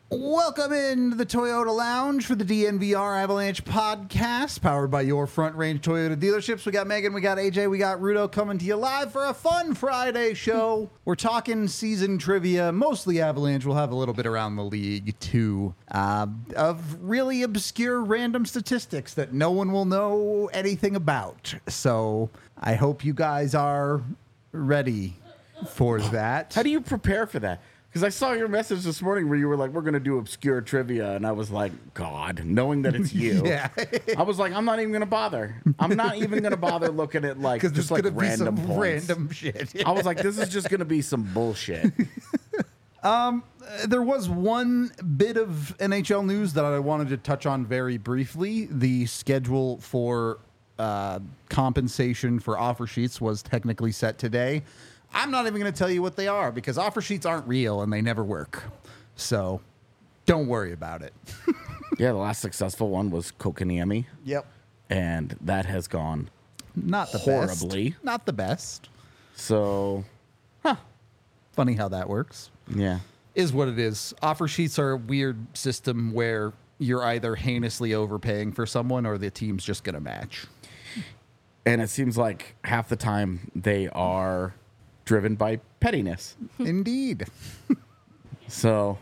Welcome into the Toyota Lounge for the DNVR Avalanche podcast, powered by your Front Range Toyota dealerships. We got Megan, we got AJ, we got Rudo coming to you live for a fun Friday show. We're talking season trivia, mostly Avalanche. We'll have a little bit around the league, too, of really obscure random statistics that no one will know anything about. So I hope you guys are ready for that. How do you prepare for that? Because I saw your message this morning where you were like, we're going to do obscure trivia. And I was like, God, knowing that it's you. Yeah. I was like, I'm not even going to bother. I'm not even going to bother looking at like just like random be some points. random shit. I was like, this is just going to be some bullshit. There was one bit of NHL news that I wanted to touch on very briefly. The schedule for compensation for offer sheets was technically set today. I'm not even going to tell you what they are because offer sheets aren't real and they never work. So don't worry about it. Yeah, the last successful one was Kotkaniemi. Yep. And that has gone Not the horribly. best. Not the best. So, Funny how that works. yeah. Is what it is. Offer sheets are a weird system where you're either heinously overpaying for someone or the team's just going to match. And it seems like half the time they are driven by pettiness. Indeed. So,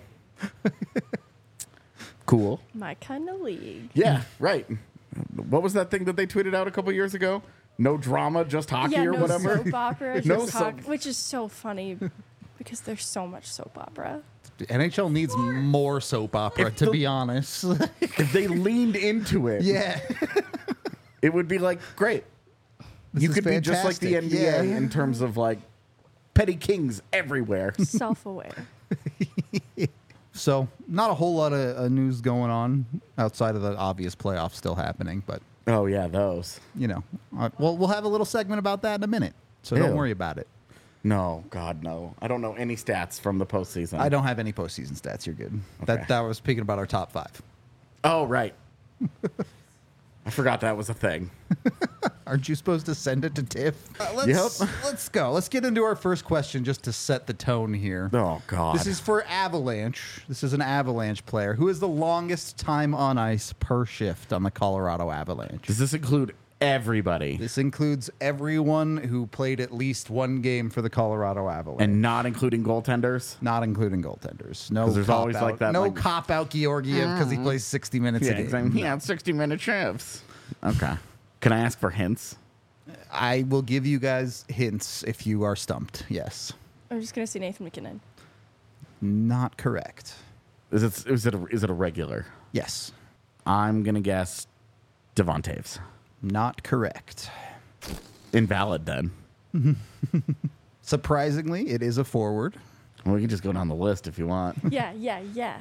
cool. My kind of league. Yeah, right. What was that thing that they tweeted out a couple years ago? No drama, just hockey Yeah, or no whatever. soap opera, No just soap- which is so funny because there's so much soap opera. NHL needs more soap opera, If to the- be honest. If they leaned into it, Yeah. it would be like, great. You is could be just like the fantastic. NBA Yeah. in terms of like petty kings everywhere. Self-aware. So, not a whole lot of news going on outside of the obvious playoffs still happening, but, Oh, yeah, those. you know, we'll have a little segment about that in a minute. So, don't Ew. worry about it. No, God, no. I don't know any stats from the postseason. I don't have any postseason stats. You're good. Okay. That was speaking about our top five. Oh, right. I forgot that was a thing. Aren't you supposed to send it to Tiff? Let's go. Let's get into our first question just to set the tone here. Oh, God. This is for Avalanche. This is an Avalanche player. Who is the longest time on ice per shift on the Colorado Avalanche? Does this include everybody? This includes everyone who played at least one game for the Colorado Avalanche. And not including goaltenders? Not including goaltenders. No, 'Cause there's cop always out. like that, No like- cop out Georgiev because he plays 60 minutes a game. exactly. Yeah, 60-minute shifts. Okay. Can I ask for hints? I will give you guys hints if you are stumped. Yes. I'm just gonna say Nathan McKinnon. Not correct. Is it a regular? Yes. I'm gonna guess Devon Taves. Not correct. Invalid then. Surprisingly, it is a forward. Well, we can just go down the list if you want. Yeah.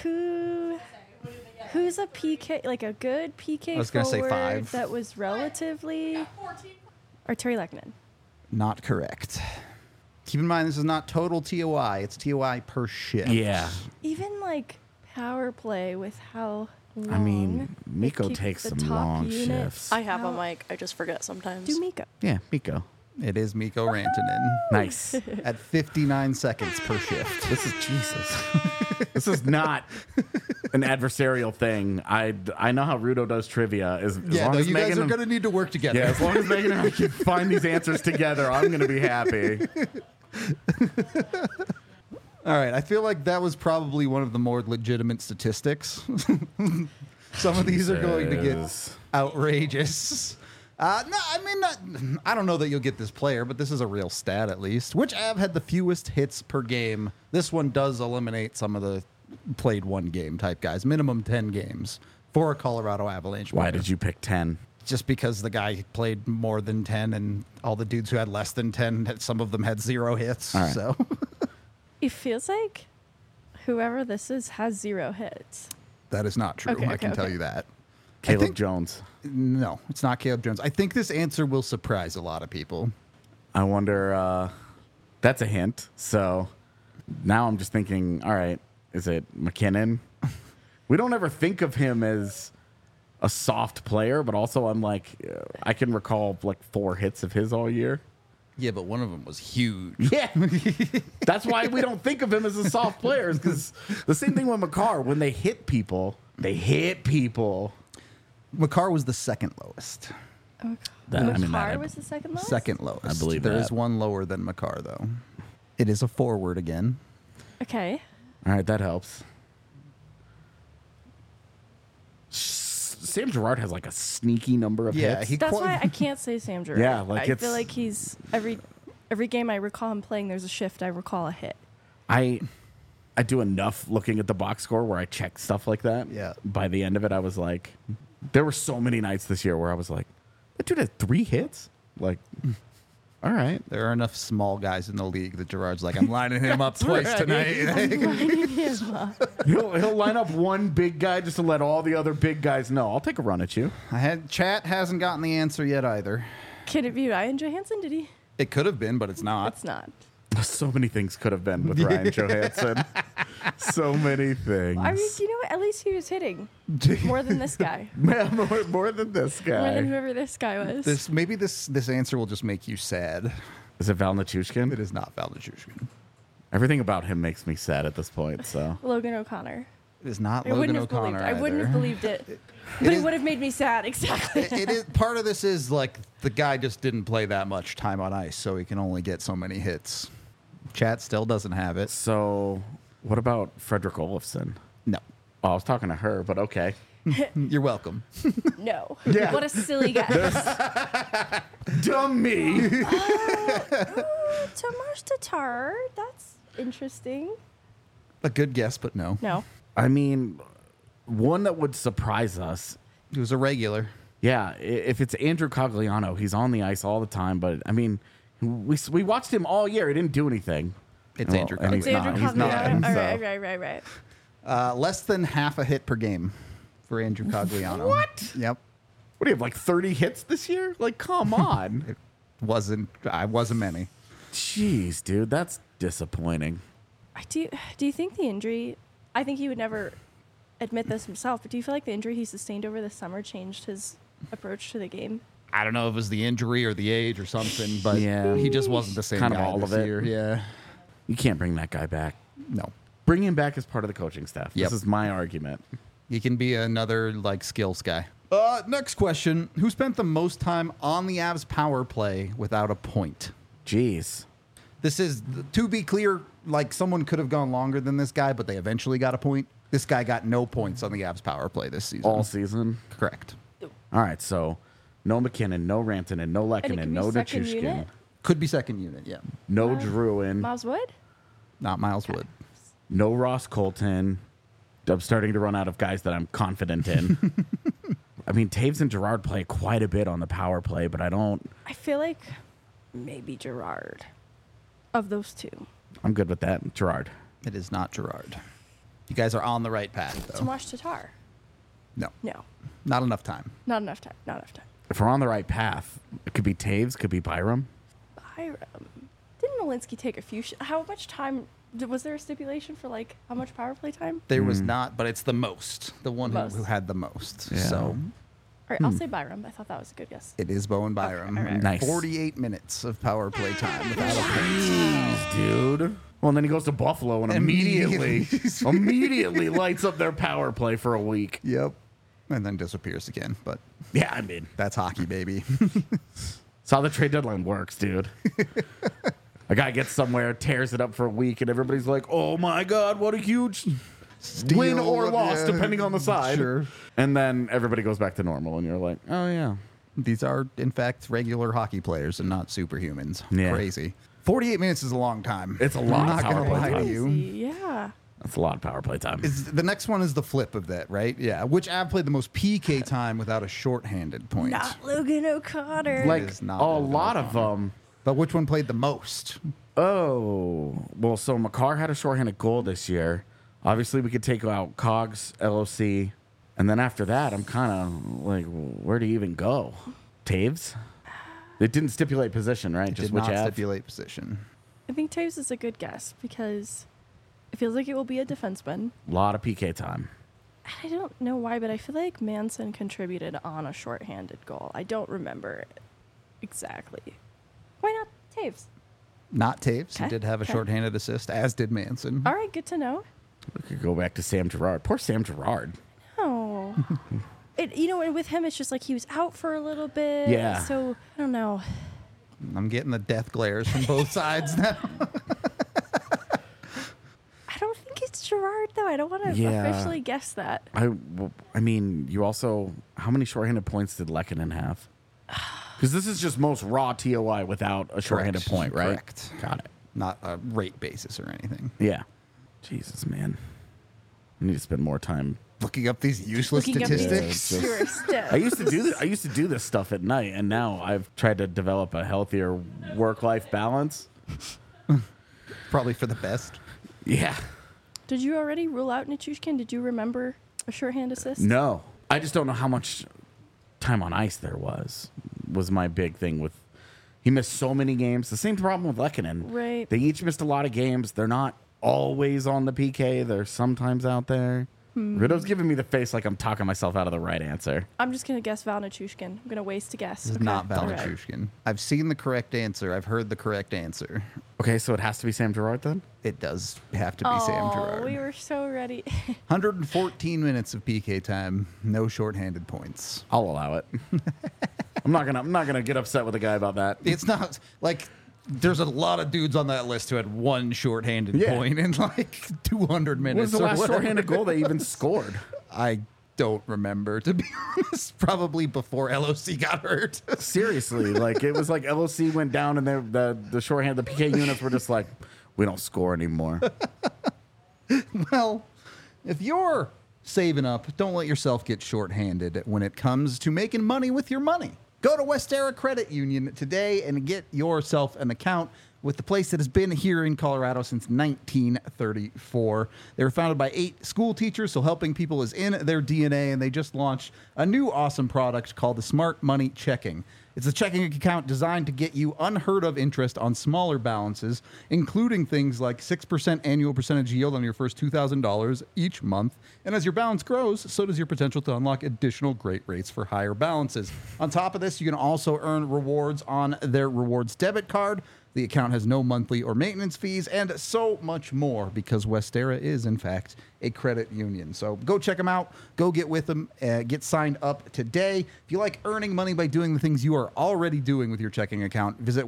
Who's a PK, like a good PK I was gonna say forward 5. that was relatively... Or Terry Lekkinen. Not correct. Keep in mind, this is not total TOI. It's TOI per shift. Yeah. Even like power play with how long... I mean, they Miko keep takes the some top long unit shifts. I have a out. mic. I just forget sometimes. Do Miko. Yeah, Miko. It is Mikko Rantanen Nice. at 59 seconds per shift. This is Jesus. This is not an adversarial thing. I know how Rudo does trivia. As Yeah, long no, as you guys Megan are going to need to work together. Yeah, as long as Megan and I can find these answers together, I'm going to be happy. All right, I feel like that was probably one of the more legitimate statistics. Some of these are going to get Jesus. outrageous. No, I mean, I don't know that you'll get this player, but this is a real stat at least. Which Av had the fewest hits per game? This one does eliminate some of the played one game type guys. Minimum 10 games for a Colorado Avalanche. Why player. did you pick 10? Just because the guy played more than 10 and all the dudes who had less than 10, some of them had 0 hits. All right. So It feels like whoever this is has 0 hits. that is not true. Okay, I can okay, tell okay. you that. Caleb think- Jones. No, it's not Caleb Jones. I think this answer will surprise a lot of people. I wonder, that's a hint. So now I'm just thinking, all right, is it McKinnon? We don't ever think of him as a soft player, but also I'm like, I can recall like 4 hits of his all year. Yeah, but one of them was huge. Yeah. That's why we don't think of him as a soft player, because the same thing with Makar. When they hit people, they hit people. Makar was the second lowest. Makar was the second lowest? Second lowest. I believe there that. is one lower than Makar, though. It is a forward again. Okay. All right, that helps. Sam Girard has like a sneaky number of Yeah, hits. That's why I can't say Sam Girard. Yeah, like I feel like he's every game I recall him playing, there's a shift, I recall a hit. I do enough looking at the box score where I check stuff like that. Yeah. By the end of it, I was like, there were so many nights this year where I was like, that dude had 3 hits? Like, all right. There are enough small guys in the league that Gerard's like, I'm lining him up twice tonight. He'll line up one big guy just to let all the other big guys know. I'll take a run at you. Chat hasn't gotten the answer yet either. Can it be Ryan Johansson? Did he? It could have been, but it's not. It's not. So many things could have been with Ryan Johansson. So many things. I mean, you know what? At least he was hitting more than this guy. more than this More than guy. whoever this guy was. Maybe this answer will just make you sad. Is it Val Nichushkin? It is not Val Nichushkin. Everything about him makes me sad at this point. So Logan O'Connor. It is not I Logan wouldn't have O'Connor believed. I wouldn't have either. believed it. But it would have made me sad. Exactly. It is part of this is like the guy just didn't play that much time on ice, so he can only get so many hits. Chat still doesn't have it. So, what about Frederick Olofsson? No. Oh, I was talking to her, but okay. You're welcome. No. Yeah. What a silly guy. Dummy. Tomas Tatar. That's interesting. A good guess, but no. No. I mean, one that would surprise us. He was a regular. Yeah, if it's Andrew Cogliano, he's on the ice all the time. But I mean, we watched him all year. He didn't do anything. It's Andrew and he's It's Andrew not. He's Cogliano. not. All so. right. Less than half a hit per game for Andrew Cogliano. What? Yep. What do you have, like 30 hits this year? Like, come on. Wasn't many. Jeez, dude, that's disappointing. Do you think the injury? I think he would never admit this himself. But do you feel like the injury he sustained over the summer changed his approach to the game? I don't know if it was the injury or the age or something, but Yeah. he just wasn't the same Kind of guy all this of it. year. Yeah. You can't bring that guy back. No. Bring him back as part of the coaching staff. Yep. This is my argument. He can be another like skills guy. Next question. Who spent the most time on the Avs power play without a point? Jeez. This is, to be clear, like someone could have gone longer than this guy, but they eventually got a point. This guy got no points on the Avs power play this season. All season. Correct. All right, so no McKinnon, no Rantanen, no And it Lehkonen, could no be second Nichushkin, unit? Could be second unit, yeah. no Druin, Miles Wood? Not Miles Wood. no Ross Colton. I'm starting to run out of guys that I'm confident in. I mean, Taves and Girard play quite a bit on the power play, but I feel like maybe Gerard. Of those two. I'm good with that. Girard. It is not Gerard. You guys are on the right path, though. Tomas Tatar. No. No. Not enough time. Not enough time. Not enough time. If we're on the right path, it could be Taves, could be Byram. Byram. Didn't Malinsky take a few? How much time? Was there a stipulation for like how much power play time? There was not, but it's the most. The one who, Most. who had the most. Yeah. So All right, I'll say Byram. I thought that was a good guess. it is Bowen Byram. all right. Nice. 48 minutes of power play time without a point. Jeez, dude. Well, and then he goes to Buffalo and immediately lights up their power play for a week. Yep. And then disappears again. But Yeah, I mean, that's hockey, baby. that's how the trade deadline works, dude. A guy gets somewhere, tears it up for a week, and everybody's like, oh my God, what a huge win or loss, yeah. depending on the side. Sure. And then everybody goes back to normal, and you're like, oh, yeah. These are, in fact, regular hockey players and not superhumans. Yeah. Crazy. 48 minutes is a long time. It's a lot I'm of not power gonna play lie time. to you. Crazy, yeah. That's a lot of power play time. The next one is the flip of that, right? Yeah. Which Av played the most PK time without a shorthanded point? Not Logan O'Connor. Like, is not a Logan lot of them. But which one played the most? Oh, well, so Makar had a shorthanded goal this year. Obviously, we could take out Cogs, LOC, and then after that, I'm kind of like, where do you even go? Taves? It didn't stipulate position, right? Did not stipulate position. I think Taves is a good guess because it feels like it will be a defenseman. A lot of PK time. I don't know why, but I feel like Manson contributed on a shorthanded goal. I don't remember it exactly. Why not Taves. Not Taves. He Okay, did have a okay. shorthanded assist, as did Manson. All right, good to know. We could go back to Sam Gerard. Poor Sam Gerard. Oh. And with him, it's just like he was out for a little bit. Yeah. So, I don't know. I'm getting the death glares from both sides now. I don't think it's Gerard, though. I don't want to Yeah. officially guess that. I mean, you also, how many shorthanded points did Lehkonen have? Because this is just most raw TOI without a shorthanded Correct. point, right? Correct. Got it. Not a rate basis or anything. Yeah. Jesus, man. I need to spend more time. Looking up these useless Looking up these statistics. Yeah, pure stats. I used to do this. I used to do this stuff at night, and now I've tried to develop a healthier work-life balance. Probably for the best. Yeah. Did you already rule out Nichushkin? Did you remember a shorthand assist? No, I just don't know how much time on ice there was my big thing with. He missed so many games. The same problem with Lehkonen. Right. They each missed a lot of games. They're not always on the PK. They're sometimes out there. Riddow's giving me the face like I'm talking myself out of the right answer. I'm just going to guess Val Nichushkin. I'm going to waste a guess. This is Okay. not All right. Valachushkin. I've seen the correct answer. I've heard the correct answer. Okay, so it has to be Sam Gerard then? It does have to be Sam Gerard. We were so ready. 114 minutes of PK time. No shorthanded points. I'll allow it. I'm not gonna get upset with a guy about that. It's not like there's a lot of dudes on that list who had one shorthanded Yeah. point in like 200 minutes. When's the or last whatever. shorthanded goal they even scored? I don't remember, to be honest. Probably before LOC got hurt. Seriously, like it was like LOC went down and the shorthand, the PK units were just like, we don't score anymore. Well, if you're saving up, don't let yourself get shorthanded when it comes to making money with your money. Go to Westera Credit Union today and get yourself an account with the place that has been here in Colorado since 1934. They were founded by 8 school teachers, so helping people is in their DNA, and they just launched a new awesome product called the Smart Money Checking. It's a checking account designed to get you unheard of interest on smaller balances, including things like 6% annual percentage yield on your first $2,000 each month. And as your balance grows, so does your potential to unlock additional great rates for higher balances. On top of this, you can also earn rewards on their rewards debit card. The account has no monthly or maintenance fees, and so much more, because Westera is, in fact, a credit union. So go check them out. Go get with them. Get signed up today. If you like earning money by doing the things you are already doing with your checking account, visit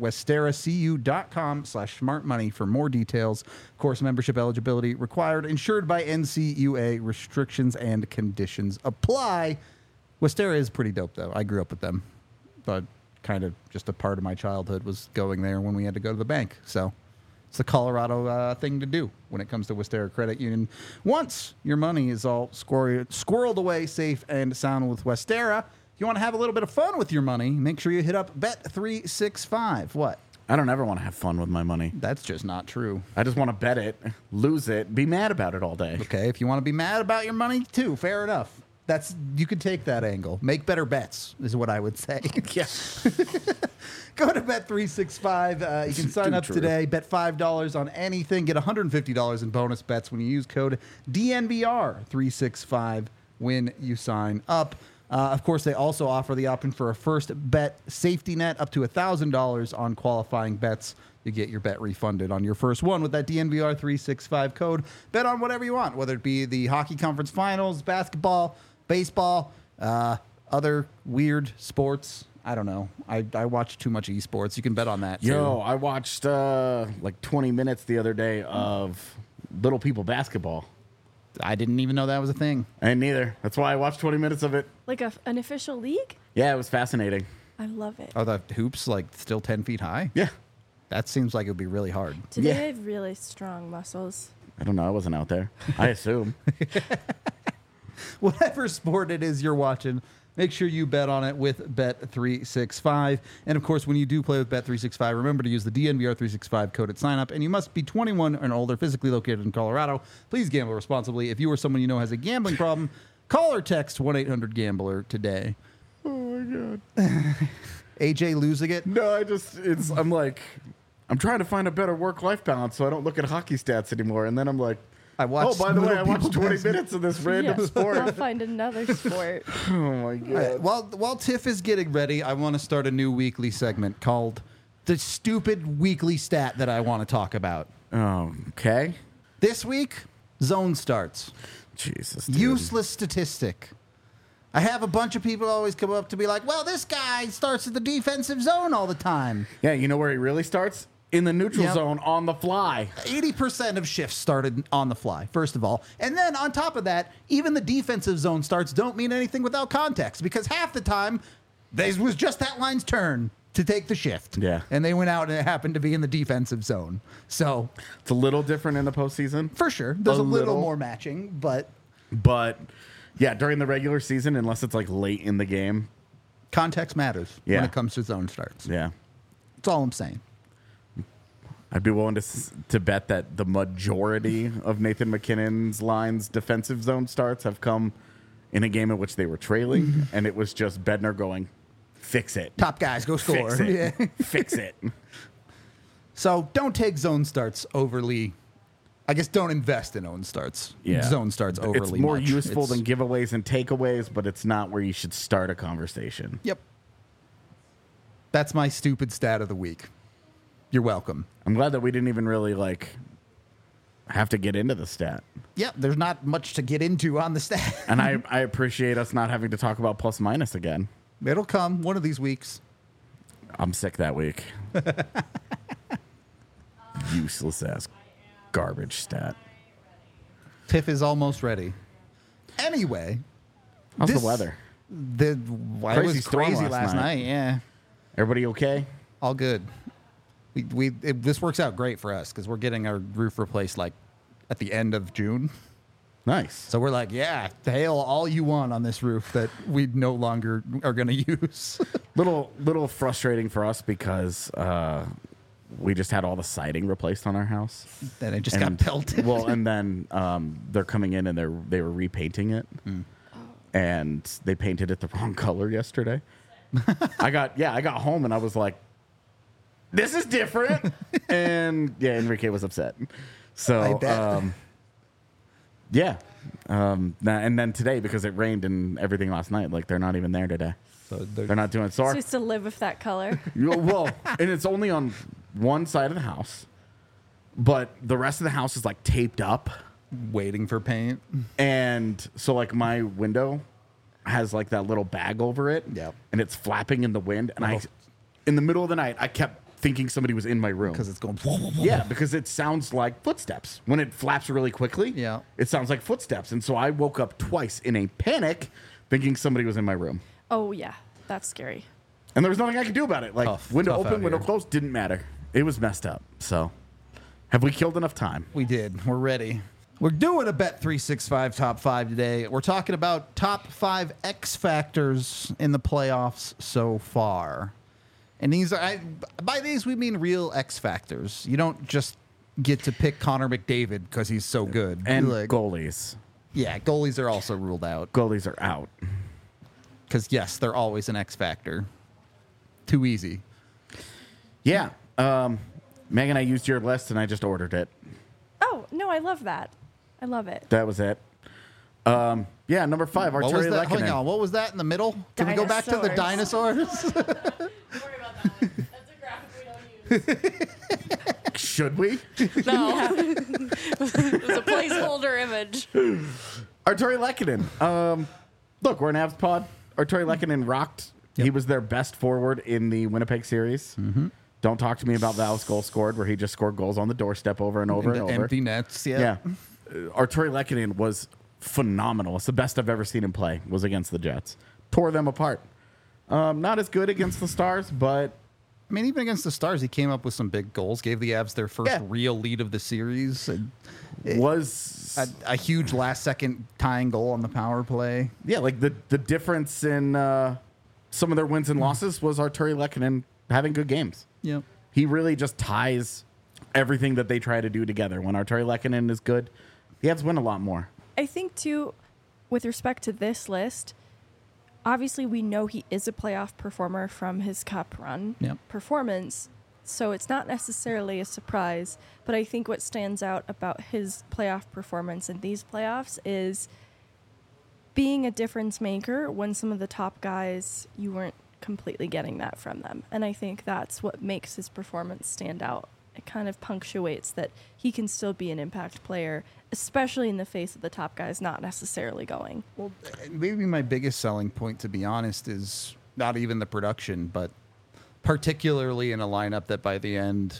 westeracu.com/smartmoney for more details. Of course, membership eligibility required. Insured by NCUA. Restrictions and conditions apply. Westera is pretty dope, though. I grew up with them, but kind of just a part of my childhood was going there when we had to go to the bank. So it's the Colorado thing to do when it comes to Westera Credit Union. Once your money is all squirreled away safe and sound with Westera, if you want to have a little bit of fun with your money, make sure you hit up Bet365. What? I don't ever want to have fun with my money. That's just not true. I just want to bet it, lose it, be mad about it all day. Okay, if you want to be mad about your money too, fair enough. You could take that angle. Make better bets is what I would say. Yeah. Go to Bet365. You can sign Too up true. today. Bet $5 on anything. Get $150 in bonus bets when you use code DNVR365 when you sign up. Of course, they also offer the option for a first bet safety net up to $1,000 on qualifying bets. You get your bet refunded on your first one with that DNVR365 code. Bet on whatever you want, whether it be the hockey conference finals, basketball, baseball, other weird sports. I don't know. I watch too much esports. You can bet on that, too. Yo, I watched like 20 minutes the other day of Little People basketball. I didn't even know that was a thing. And neither. That's why I watched 20 minutes of it. Like an official league? Yeah, it was fascinating. I love it. Are the hoops like still 10 feet high? Yeah. That seems like it would be really hard. Do they yeah. have really strong muscles? I don't know. I wasn't out there. I assume. Whatever sport it is you're watching, make sure you bet on it with Bet365. And of course, when you do play with Bet365, remember to use the DNVR365 code at sign up. And you must be 21 and older, physically located in Colorado. Please gamble responsibly. If you or someone you know has a gambling problem, call or text 1-800-GAMBLER today. Oh my God. AJ losing it? No, I'm trying to find a better work-life balance so I don't look at hockey stats anymore. And then I'm like, I watched by the way, I Little watched People 20 Basketball. minutes of this random I'll sport. find another sport. Oh my All right, God. while Tiff is getting ready, I want to start a new weekly segment called the stupid weekly stat that I want to talk about. Okay. This week, zone starts. Jesus. Dude. Useless statistic. I have a bunch of people always come up to be like, well, this guy starts at the defensive zone all the time. Yeah, you know where he really starts? In the neutral Yep. zone on the fly. 80% of shifts started on the fly, first of all. And then on top of that, even the defensive zone starts don't mean anything without context because half the time, this was just that line's turn to take the shift. Yeah. And they went out and it happened to be in the defensive zone. So, It's a little different in the postseason. for sure, there's a little little. more matching, but But yeah, during the regular season, unless it's like late in the game. context matters Yeah. when it comes to zone starts. Yeah. That's all I'm saying. I'd be willing to bet that the majority of Nathan McKinnon's lines defensive zone starts have come in a game in which they were trailing, and it was just Bednar going, fix it. Top guys, go score. Fix it. Yeah. Fix it. So don't take zone starts overly. I guess don't invest in zone starts overly It's more much. useful It's- than giveaways and takeaways, but it's not where you should start a conversation. Yep. That's my stupid stat of the week. You're welcome. I'm glad that we didn't even really have to get into the stat. Yep, there's not much to get into on the stat. And I appreciate us not having to talk about plus minus again. It'll come one of these weeks. I'm sick that week. Useless ass garbage stat. Tiff is almost ready. Anyway, How's this- the weather? it Crazy was storm crazy last last night. night. Yeah, Everybody okay? all good. This works out great for us because we're getting our roof replaced like at the end of June. Nice. So we're like, yeah, hail all you want on this roof that we no longer are going to use. Little frustrating for us because we just had all the siding replaced on our house. Then it just got pelted. Well, and then they're coming in and they were repainting it, and they painted it the wrong color yesterday. I got home and I was like, "This is different," and yeah, Enrique was upset. So I bet. and then today because it rained and everything last night, like they're not even there today. So They're not doing it. So So our, used to live with that color. well, and it's only on one side of the house, but the rest of the house is like taped up. waiting for paint. And so like my window has like that little bag over it. Yep. And it's flapping in the wind. And in the middle of the night, I kept thinking somebody was in my room. Because it's going. Yeah, because it sounds like footsteps. When it flaps really quickly, Yeah. it sounds like footsteps. And so I woke up twice in a panic thinking somebody was in my room. Oh yeah, that's scary. And there was nothing I could do about it. Like window Tough open, out window here. closed, didn't matter. It was messed up. So have we killed enough time? We did. We're ready. We're doing a Bet365 top 5 today. We're talking about top 5 X factors in the playoffs so far. And these are, by these, we mean real X factors. You don't just get to pick Connor McDavid because he's so good. And Like, goalies. yeah, goalies are also ruled out Goalies are out. because, yes, they're always an X factor. Too easy. Yeah. Megan, I used your list and I just ordered it. Oh no, I love that. I love it. That was it. Yeah, number 5, What was Arturi that? Hang on. Lehkonen. What was that in the middle? Can we go back to the dinosaurs? Don't worry about that. That's a graphic we don't use. Should we? No. It was a placeholder image. Arturi Lehkonen. Look, we're an Avs pod. Arturi Lehkonen rocked. He was their best forward in the Winnipeg series. Mm-hmm. Don't talk to me about Val's goal scored, where he just scored goals on the doorstep over and over and over. Empty nets. Yeah. Yeah. Arturi Lehkonen was phenomenal. It's the best I've ever seen him play was against the Jets. Tore them apart. Not as good against the Stars, but I mean, even against the Stars, he came up with some big goals, gave the Avs their first Yeah. real lead of the series, and was a huge last-second tying goal on the power play. yeah, like the difference in some of their wins and losses was Arturi Lehkonen having good games. Yep. He really just ties everything that they try to do together. When Arturi Lehkonen is good, the Avs win a lot more. I think too, with respect to this list, obviously we know he is a playoff performer from his cup run Yep. performance, so it's not necessarily a surprise. But I think what stands out about his playoff performance in these playoffs is being a difference maker when some of the top guys you weren't completely getting that from them. And I think that's what makes his performance stand out. It kind of punctuates that he can still be an impact player, especially in the face of the top guys not necessarily going. Well, maybe my biggest selling point, to be honest, is not even the production, but particularly in a lineup that by the end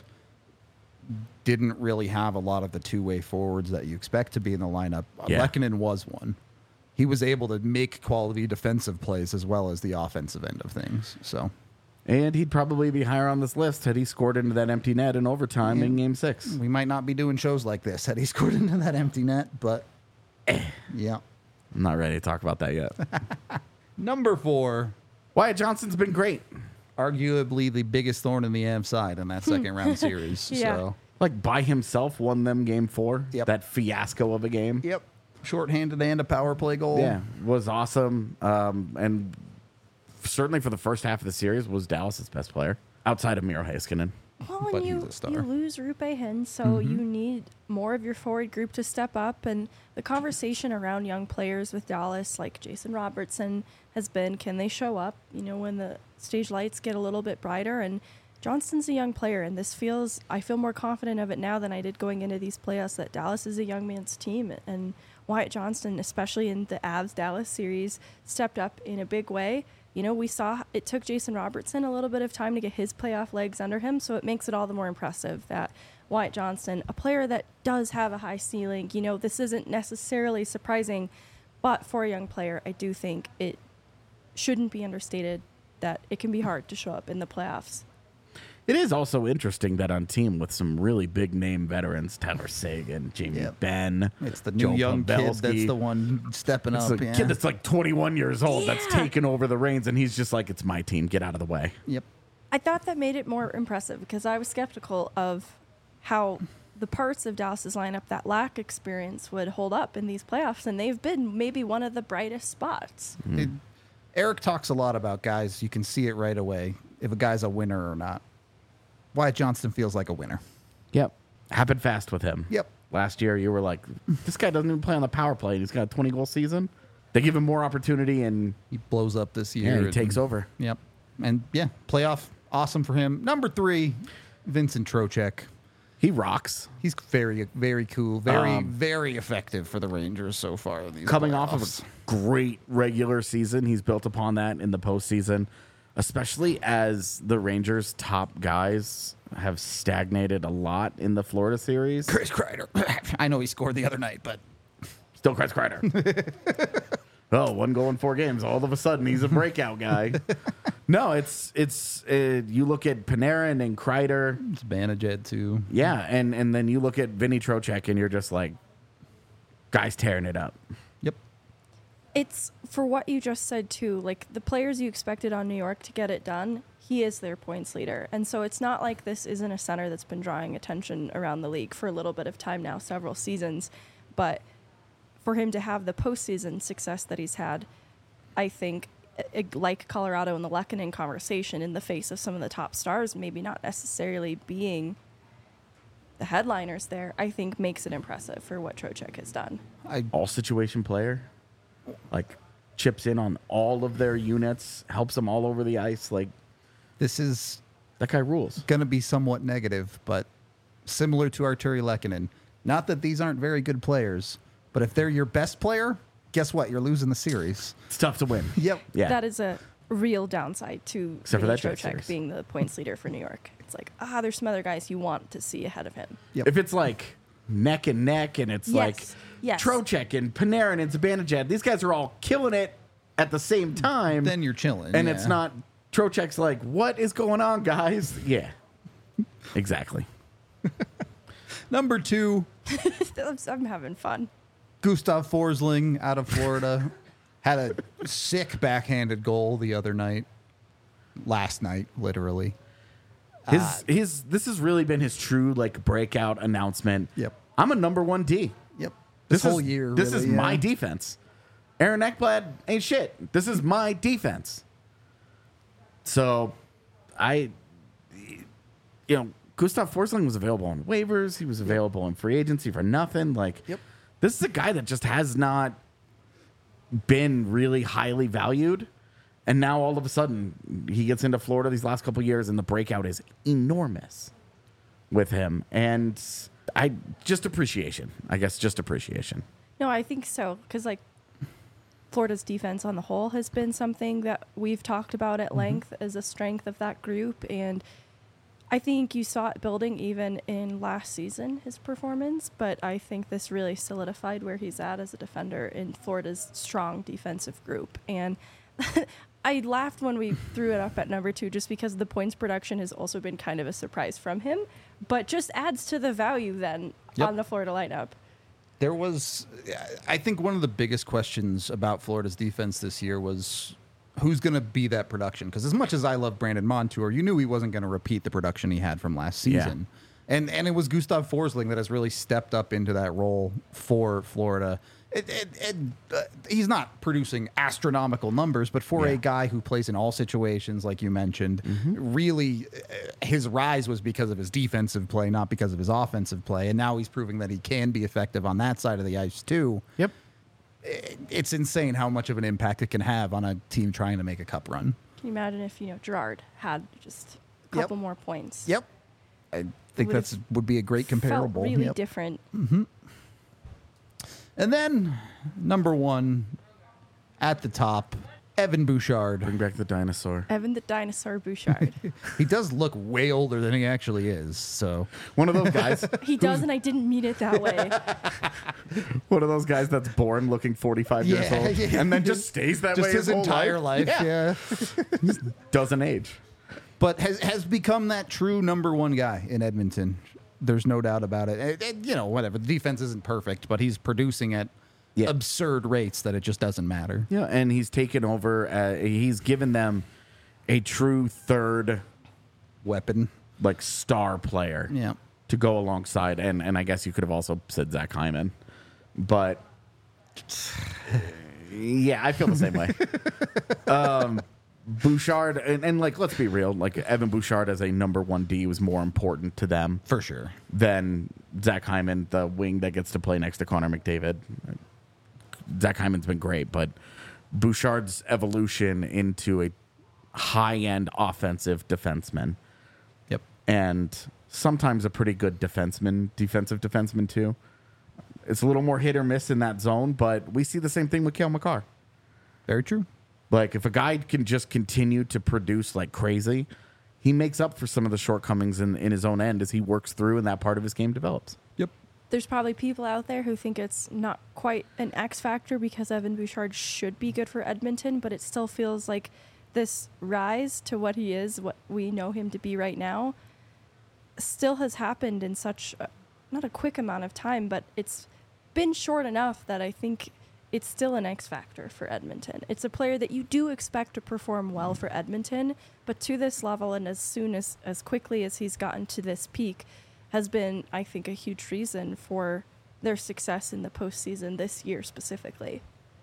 didn't really have a lot of the two-way forwards that you expect to be in the lineup. Yeah. Lehkonen was one. He was able to make quality defensive plays as well as the offensive end of things. So, And he'd probably be higher on this list had he scored into that empty net in overtime in Game 6. we might not be doing shows like this had he scored into that empty net, but yeah. I'm not ready to talk about that yet. Number 4, Wyatt Johnston's been great. arguably the biggest thorn in the Avs side in that second round series. Yeah. So, Like, by himself, won them Game 4. Yep. That fiasco of a game. yep. Shorthanded and a power play goal. Yeah, was awesome. And certainly for the first half of the series was Dallas's best player outside of Miro Heiskanen. Well, But and he's a star. you lose Rupe Hinn, so you need more of your forward group to step up. And the conversation around young players with Dallas, like Jason Robertson, has been, can they show up, when the stage lights get a little bit brighter? And Johnston's a young player, and I feel more confident of it now than I did going into these playoffs, that Dallas is a young man's team. And Wyatt Johnston, especially in the Avs-Dallas series, stepped up in a big way. We saw it took Jason Robertson a little bit of time to get his playoff legs under him, so it makes it all the more impressive that Wyatt Johnston, a player that does have a high ceiling, this isn't necessarily surprising, but for a young player, I do think it shouldn't be understated that it can be hard to show up in the playoffs. It is also interesting that on team with some really big name veterans, Tyler Seguin, Jamie Yep. Benn, It's the new Joe young kid Pavelski. that's the one stepping It's up. a Yeah. kid that's like 21 years old that's Yeah. taken over the reins, and he's just like, it's my team, get out of the way. Yep. I thought that made it more impressive because I was skeptical of how the parts of Dallas's lineup that lack experience would hold up in these playoffs, and they've been maybe one of the brightest spots. Eric talks a lot about guys. You can see it right away if a guy's a winner or not. Wyatt Johnston feels like a winner. Yep. Happened fast with him. Yep. Last year, you were like, this guy doesn't even play on the power play, and he's got a 20-goal season. They give him more opportunity, and He blows up this year. yeah, he and- takes over. Yep. And yeah, playoff, awesome for him. Number 3, Vincent Trocheck. He rocks. He's very, very cool. Very effective for the Rangers so far. In these Coming off of playoffs. a great regular season, he's built upon that in the postseason, especially as the Rangers' top guys have stagnated a lot in the Florida series. Chris Kreider. I know he scored the other night, but Still Chris Kreider. Oh, 1 goal in 4 games. All of a sudden, he's a breakout guy. No, it's you look at Panarin and Kreider. it's Banajed too. Yeah, and then you look at Vinny Trocheck, and you're just like, guys tearing it up. Yep. It's for what you just said too, like the players you expected on New York to get it done, he is their points leader. And so it's not like this isn't a center that's been drawing attention around the league for a little bit of time now, several seasons. But for him to have the postseason success that he's had, I think, like Colorado in the Lehkonen conversation, in the face of some of the top stars, maybe not necessarily being the headliners there, I think makes it impressive for what Trocheck has done. All situation player, like chips in on all of their units, helps them all over the ice. Like This is that guy rules. going to be somewhat negative, but similar to Arturi Lehkonen. Not that these aren't very good players, but if they're your best player, guess what? You're losing the series. It's tough to win. Yep. Yeah. That is a real downside to Except for Vinny that Jet Trocheck series. being the points leader for New York. It's like, there's some other guys you want to see ahead of him. Yep. If it's like neck and neck, and it's like Yes. Trocheck and Panarin and Zibanejad, these guys are all killing it at the same time. Then you're chilling. and yeah. it's not Trocheck's like, what is going on, guys? Yeah, exactly. Number 2, I'm having fun. Gustav Forsling out of Florida. Had a sick backhanded goal the other night. Last night, literally. His this has really been his true like breakout announcement. Yep. I'm a number 1 D. Yep. This whole is, year. This really, is yeah. my defense. Aaron Ekblad ain't shit. This is my defense. So, Gustav Forsling was available on waivers. He was available in free agency for nothing. Like, Yep. this is a guy that just has not been really highly valued. And now all of a sudden he gets into Florida these last couple years and the breakout is enormous with him. And I just appreciation. No, I think so. Because, like, Florida's defense on the whole has been something that we've talked about at length as a strength of that group. And I think you saw it building even in last season, his performance. But I think this really solidified where he's at as a defender in Florida's strong defensive group. And I laughed when we threw it up at number 2 just because the points production has also been kind of a surprise from him. But just adds to the value then on the Florida lineup. There was, I think one of the biggest questions about Florida's defense this year was who's going to be that production? Because as much as I love Brandon Montour, you knew he wasn't going to repeat the production he had from last season. And it was Gustav Forsling that has really stepped up into that role for Florida. He's not producing astronomical numbers, but for a guy who plays in all situations, like you mentioned, really his rise was because of his defensive play, not because of his offensive play. And now he's proving that he can be effective on that side of the ice too. Yep. It's insane how much of an impact it can have on a team trying to make a cup run. Can you imagine if, Gerard had just a couple more points? Yep. I think that would be a great comparable. Felt really different. And then, number 1, at the top, Evan Bouchard. Bring back the dinosaur. Evan the Dinosaur Bouchard. He does look way older than he actually is. So One of those guys. He does, and I didn't mean it that way. One of those guys that's born looking 45 years old and then just stays that way just his whole entire life. Yeah. Doesn't age. But has become that true number 1 guy in Edmonton. There's no doubt about it. Whatever. The defense isn't perfect, but he's producing at absurd rates that it just doesn't matter. Yeah, and he's taken over. He's given them a true third weapon, like star player, to go alongside. And I guess you could have also said Zach Hyman, but yeah, I feel the same way. Bouchard and like, let's be real, like Evan Bouchard as a number 1 D was more important to them for sure than Zach Hyman, the wing that gets to play next to Connor McDavid. Zach Hyman's been great, but Bouchard's evolution into a high-end offensive defenseman. Yep. And sometimes a pretty good defensive defenseman too. It's a little more hit or miss in that zone, but we see the same thing with Cale Makar. Very true. Like, if a guy can just continue to produce like crazy, he makes up for some of the shortcomings in his own end as he works through and that part of his game develops. Yep. There's probably people out there who think it's not quite an X factor because Evan Bouchard should be good for Edmonton, but it still feels like this rise to what he is, what we know him to be right now, still has happened in such, not a quick amount of time, but it's been short enough that I think it's still an X factor for Edmonton. It's a player that you do expect to perform well for Edmonton, but to this level and as quickly as he's gotten to this peak has been, I think, a huge reason for their success in the postseason this year specifically.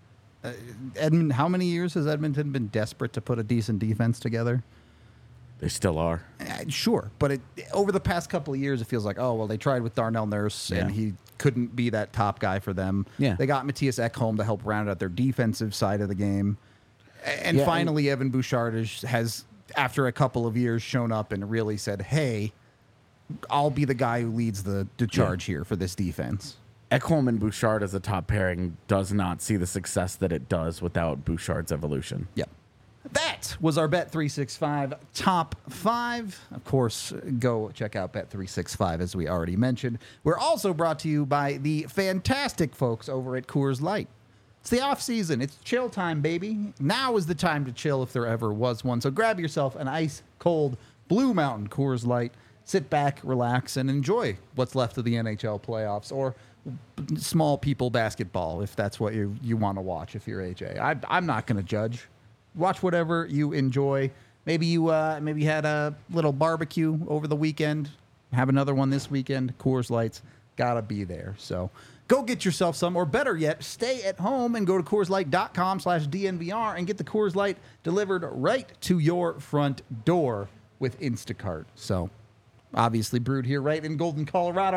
How many years has Edmonton been desperate to put a decent defense together? They still are. Sure, but over the past couple of years, it feels like, they tried with Darnell Nurse, and he couldn't be that top guy for them. Yeah. They got Matthias Ekholm to help round out their defensive side of the game. And finally, Evan Bouchard has, after a couple of years, shown up and really said, hey, I'll be the guy who leads the charge here for this defense. Ekholm and Bouchard as a top pairing does not see the success that it does without Bouchard's evolution. Yep. That was our Bet365 top 5. Of course, go check out Bet365 as we already mentioned. We're also brought to you by the fantastic folks over at Coors Light. It's the off season. It's chill time, baby. Now is the time to chill if there ever was one. So grab yourself an ice cold Blue Mountain Coors Light. Sit back, relax, and enjoy what's left of the NHL playoffs or small people basketball if that's what you want to watch if you're AJ. I'm not going to judge. Watch whatever you enjoy. Maybe you had a little barbecue over the weekend. Have another one this weekend. Coors Light's got to be there. So go get yourself some, or better yet, stay at home and go to CoorsLight.com/DNVR and get the Coors Light delivered right to your front door with Instacart. So obviously brewed here right in Golden, Colorado.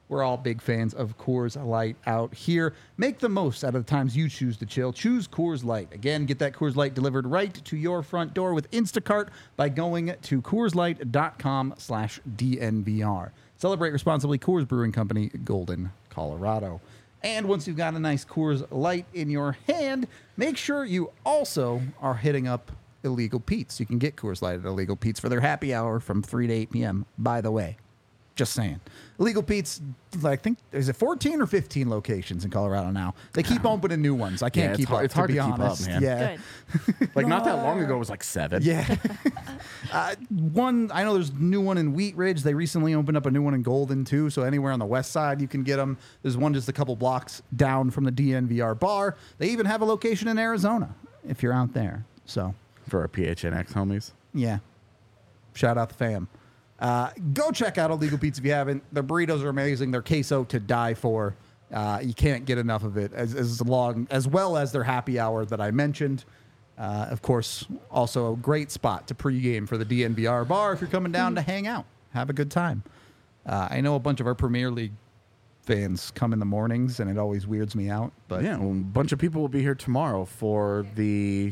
We're all big fans of Coors Light out here. Make the most out of the times you choose to chill. Choose Coors Light. Again, get that Coors Light delivered right to your front door with Instacart by going to CoorsLight.com/DNVR. Celebrate responsibly. Coors Brewing Company, Golden, Colorado. And once you've got a nice Coors Light in your hand, make sure you also are hitting up Illegal Pete's. You can get Coors Light at Illegal Pete's for their happy hour from 3 to 8 p.m., by the way. Just saying. Illegal Pete's, I think, is it 14 or 15 locations in Colorado now? They keep opening new ones. I can't keep up, it's hard to be to keep up, honest. man. Yeah. Good. Like, not that long ago, it was like 7. Yeah. One, I know there's a new one in Wheat Ridge. They recently opened up a new one in Golden, too. So anywhere on the west side, you can get them. There's one just a couple blocks down from the DNVR bar. They even have a location in Arizona if you're out there. So, For our PHNX homies. yeah. Shout out the fam. Go check out Illegal Pete's if you haven't. Their burritos are amazing. Their queso to die for. You can't get enough of it. As well as their happy hour that I mentioned. Of course, also a great spot to pregame for the DNVR bar if you're coming down to hang out, have a good time. I know a bunch of our Premier League fans come in the mornings, and it always weirds me out. But Yeah, well, a bunch of people will be here tomorrow for the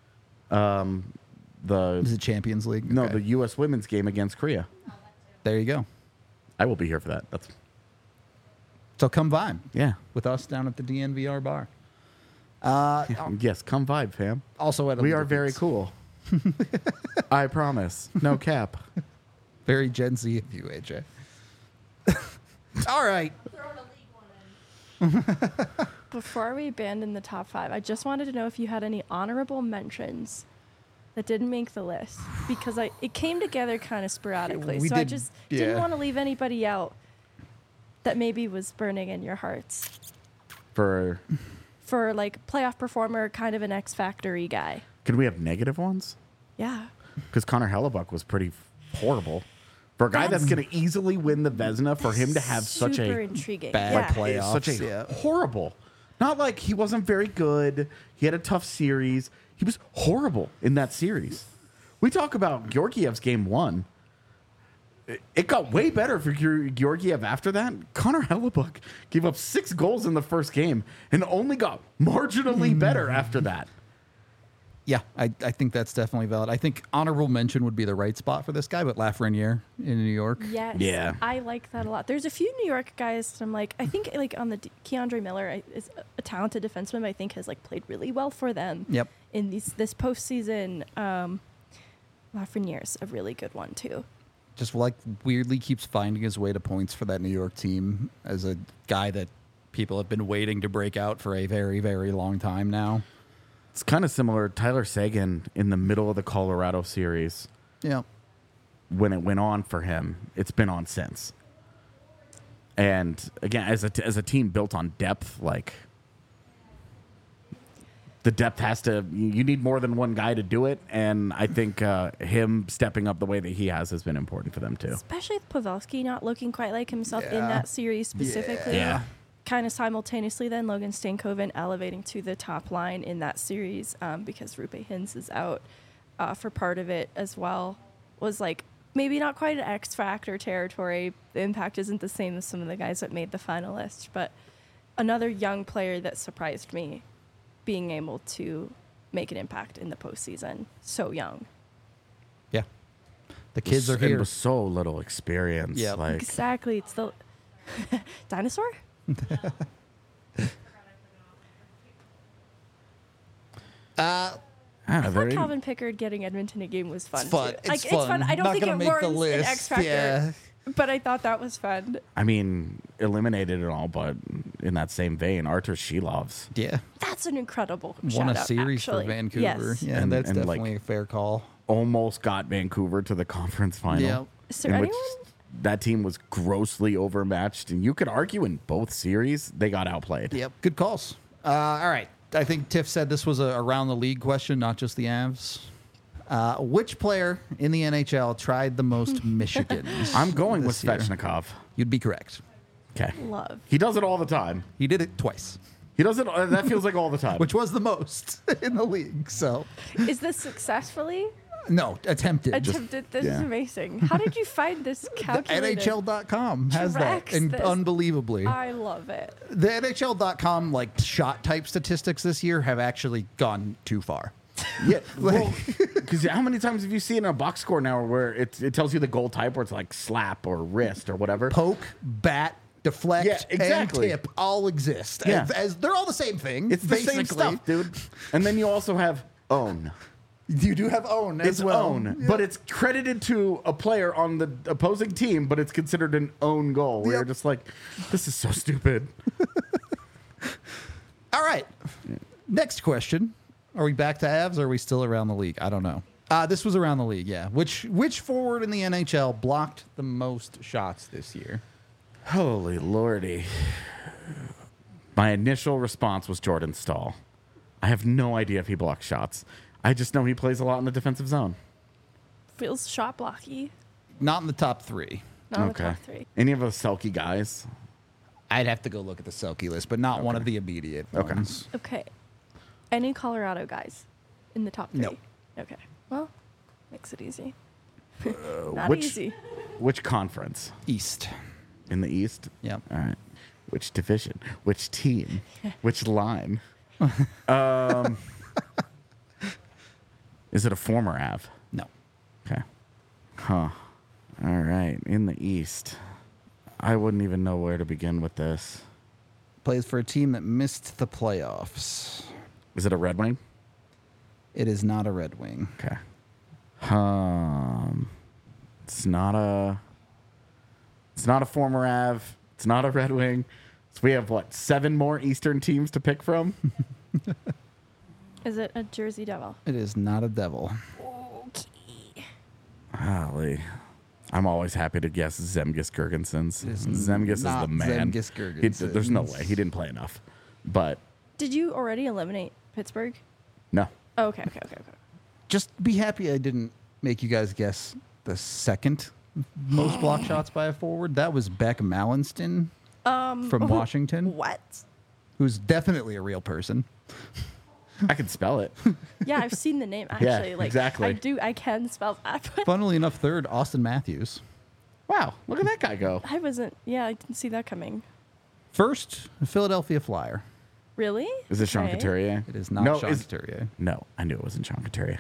is it Champions League? no, Okay. the U.S. women's game against Korea. There you go. I will be here for that. That's So come vibe yeah. with us down at the DNVR bar. Yes, come vibe, fam. Also at We Illegal are very Pete's. cool. I promise. No cap. Very Gen Z of you, AJ. All right. Throwing a league one in. Before we abandon the top 5, I just wanted to know if you had any honorable mentions that didn't make the list, because it came together kind of sporadically. We So I did- just yeah. didn't want to leave anybody out that maybe was burning in your hearts For for like playoff performer, kind of an X Factory guy. can we have negative ones? Yeah. Because Connor Hellebuck was pretty horrible. For a guy that's going to easily win the Vezina, for him to have such super a intriguing. bad yeah. play. Playoffs, such a yeah. horrible. Not like he wasn't very good. He had a tough series. He was horrible in that series. We talk about Georgiev's game 1. It got way better for Georgiev after that. Connor Hellebuck gave up 6 goals in the first game and only got marginally better after that. Yeah, I think that's definitely valid. I think honorable mention would be the right spot for this guy, but Lafreniere in New York. Yes. Yeah. I like that a lot. There's a few New York guys that I'm like, I think like on the Keandre Miller is a talented defenseman, but I think has like played really well for them. Yep. In this postseason. Lafreniere's a really good one too. Just like weirdly keeps finding his way to points for that New York team as a guy that people have been waiting to break out for a very, very long time now. It's kind of similar. Tyler Seguin in the middle of the Colorado series, Yeah. when it went on for him, it's been on since. And again, as a team built on depth, like the depth has to, you need more than one guy to do it. And I think him stepping up the way that he has been important for them too. Especially with Pavelski not looking quite like himself in Yeah. that series specifically. Yeah. Kind of simultaneously, then Logan Stankoven elevating to the top line in that series because Rupe Hintz is out for part of it as well. Was like maybe not quite an X Factor territory. The impact isn't the same as some of the guys that made the final list, but another young player that surprised me being able to make an impact in the postseason. So young. Yeah. The kids are here. With so little experience. Yep. Like, Exactly. It's the dinosaur? ah, I they're thought in- Calvin Pickard getting Edmonton a game was fun. It's fun. Too. It's Like, fun. I don't Not think gonna it make the warrants an list. X Factor, Yeah. but I thought that was fun. I mean, eliminated and all, but in that same vein, Artur Shilov's. Yeah. That's an incredible Won shout a out, series actually. for Vancouver. Yes. Yeah, And- that's and, like, definitely a fair call. Almost got Vancouver to the conference final. Yeah. Is there in which anyone? that team was grossly overmatched, and you could argue in both series they got outplayed. Yep. Good calls. All right. I think Tiff said this was a around the league question, not just the Avs. Which player in the NHL tried the most Michigans? I'm going with this year? Svechnikov. You'd be correct. Okay, Love. he does it all the time. He did it twice, He does it. That feels like all the time. which was the most in the league. So Is this successfully? No, attempted. Attempted. This is Yeah. amazing. How did you find this calculated? NHL.com has that, Tracks and this. unbelievably. I love it. The NHL.com like shot type statistics this year have actually gone too far. Yeah, well, because how many times have you seen a box score now where it tells you the goal type where it's like slap or wrist or whatever? Poke, bat, deflect, Yeah, exactly. and tip all exist. Yeah. As they're all the same thing. It's the basically. same stuff, dude. And then you also have own. You do have own as It's well. own, Yeah. but it's credited to a player on the opposing team, but it's considered an own goal. Where you're Yep. just like, this is so stupid. All right. Next question. Are we back to Avs or are we still around the league? I don't know. This was around the league, yeah. Which forward in the NHL blocked the most shots this year? Holy lordy. My initial response was Jordan Stahl. I have no idea if he blocks shots. I just know he plays a lot in the defensive zone. Feels shot blocky. Not in the top three. Not in the top three. Any of those Selkie guys? I'd have to go look at the Selkie list, but not one of the immediate Okay. ones. Okay. Any Colorado guys in the top three? No. Okay. Well, makes it easy. Not which- easy. Which conference? East. In the East? Yep. All right. Which division? Which team? Which line? Is it a former Av? No. Okay. Huh. All right. In the East. I wouldn't even know where to begin with this. Plays for a team that missed the playoffs. Is it a Red Wing? It is not a Red Wing. Okay. It's not a former Av. It's not a Red Wing. So we have what, 7 more Eastern teams to pick from? Is it a Jersey Devil? It is not a Devil. Okay. Golly. I'm always happy to guess Zemgus Girgensons. It is Zemgus is not the man. Zemgus There's no Girgensons. way. He didn't play enough. But Did you already eliminate Pittsburgh? no. Oh, okay. Just be happy I didn't make you guys guess the second most block shots by a forward. That was Beck Mallinston from Washington, What? who's definitely a real person. I can spell it. Yeah, I've seen the name Yeah, actually. Like exactly. I can spell that. But Funnily enough, third, Austin Matthews. Wow. Look at that guy go. I didn't see that coming. First, Philadelphia Flyer. Really? Is it Sean Okay. Couturier? It is not No, Sean is- Couturier. No, I knew it wasn't Sean Couturier.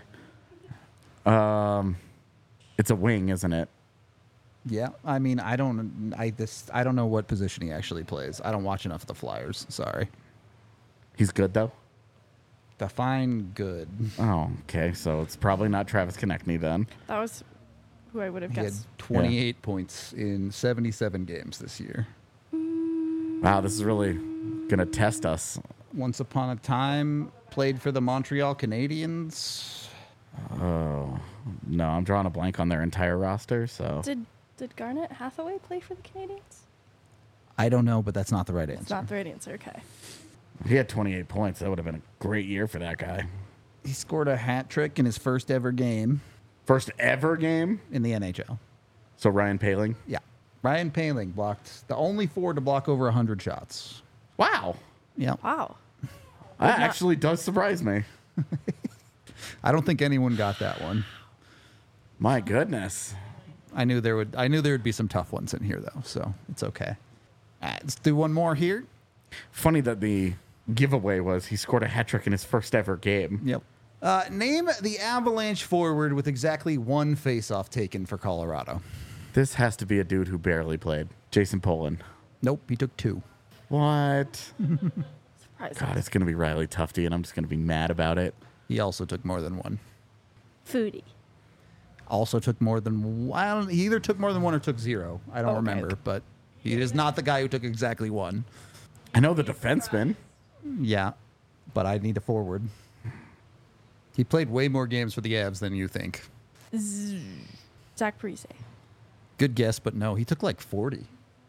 It's a wing, isn't it? Yeah, I mean, I don't know what position he actually plays. I don't watch enough of the Flyers. Sorry. He's good though. Define good. Oh, okay. So it's probably not Travis Konechny then. That was who I would have He had guessed. 28 points in 77 games this year. Wow, this is really gonna test us. Once upon a time, played for the Montreal Canadiens. Oh no, I'm drawing a blank on their entire roster. So Did Garnet Hathaway play for the Canadiens? I don't know, but that's not the right It's answer. not the right answer. Okay. if he had 28 points. That would have been a great year for that guy. He scored a hat trick in his first ever game First ever game. in the NHL. So Ryan Paling. Yeah. Ryan Paling blocked the only forward to block over 100 shots. Wow, Yeah. Wow. that actually does surprise me. I don't think anyone got that one. My goodness. I knew there would be some tough ones in here though, so it's okay. All right, let's do one more here. Funny that the giveaway was he scored a hat trick in his first ever game. Yep. Name the Avalanche forward with exactly one faceoff taken for Colorado. This has to be a dude who barely played. Jason Polin. Nope, he took 2. What? Surprising. God, it's gonna be Riley Tufte, and I'm just gonna be mad about it. He also took more than 1. Foodie. Also took more than one. He either took more than 1 or took 0. I don't Okay. remember, but he is not the guy who took exactly 1. I know the defenseman. Yeah, but I need a forward. He played way more games for the Avs than you think. Zach Parise. Good guess, but no, he took like 40.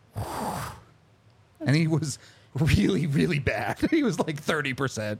And he was really, really bad. He was like 30%.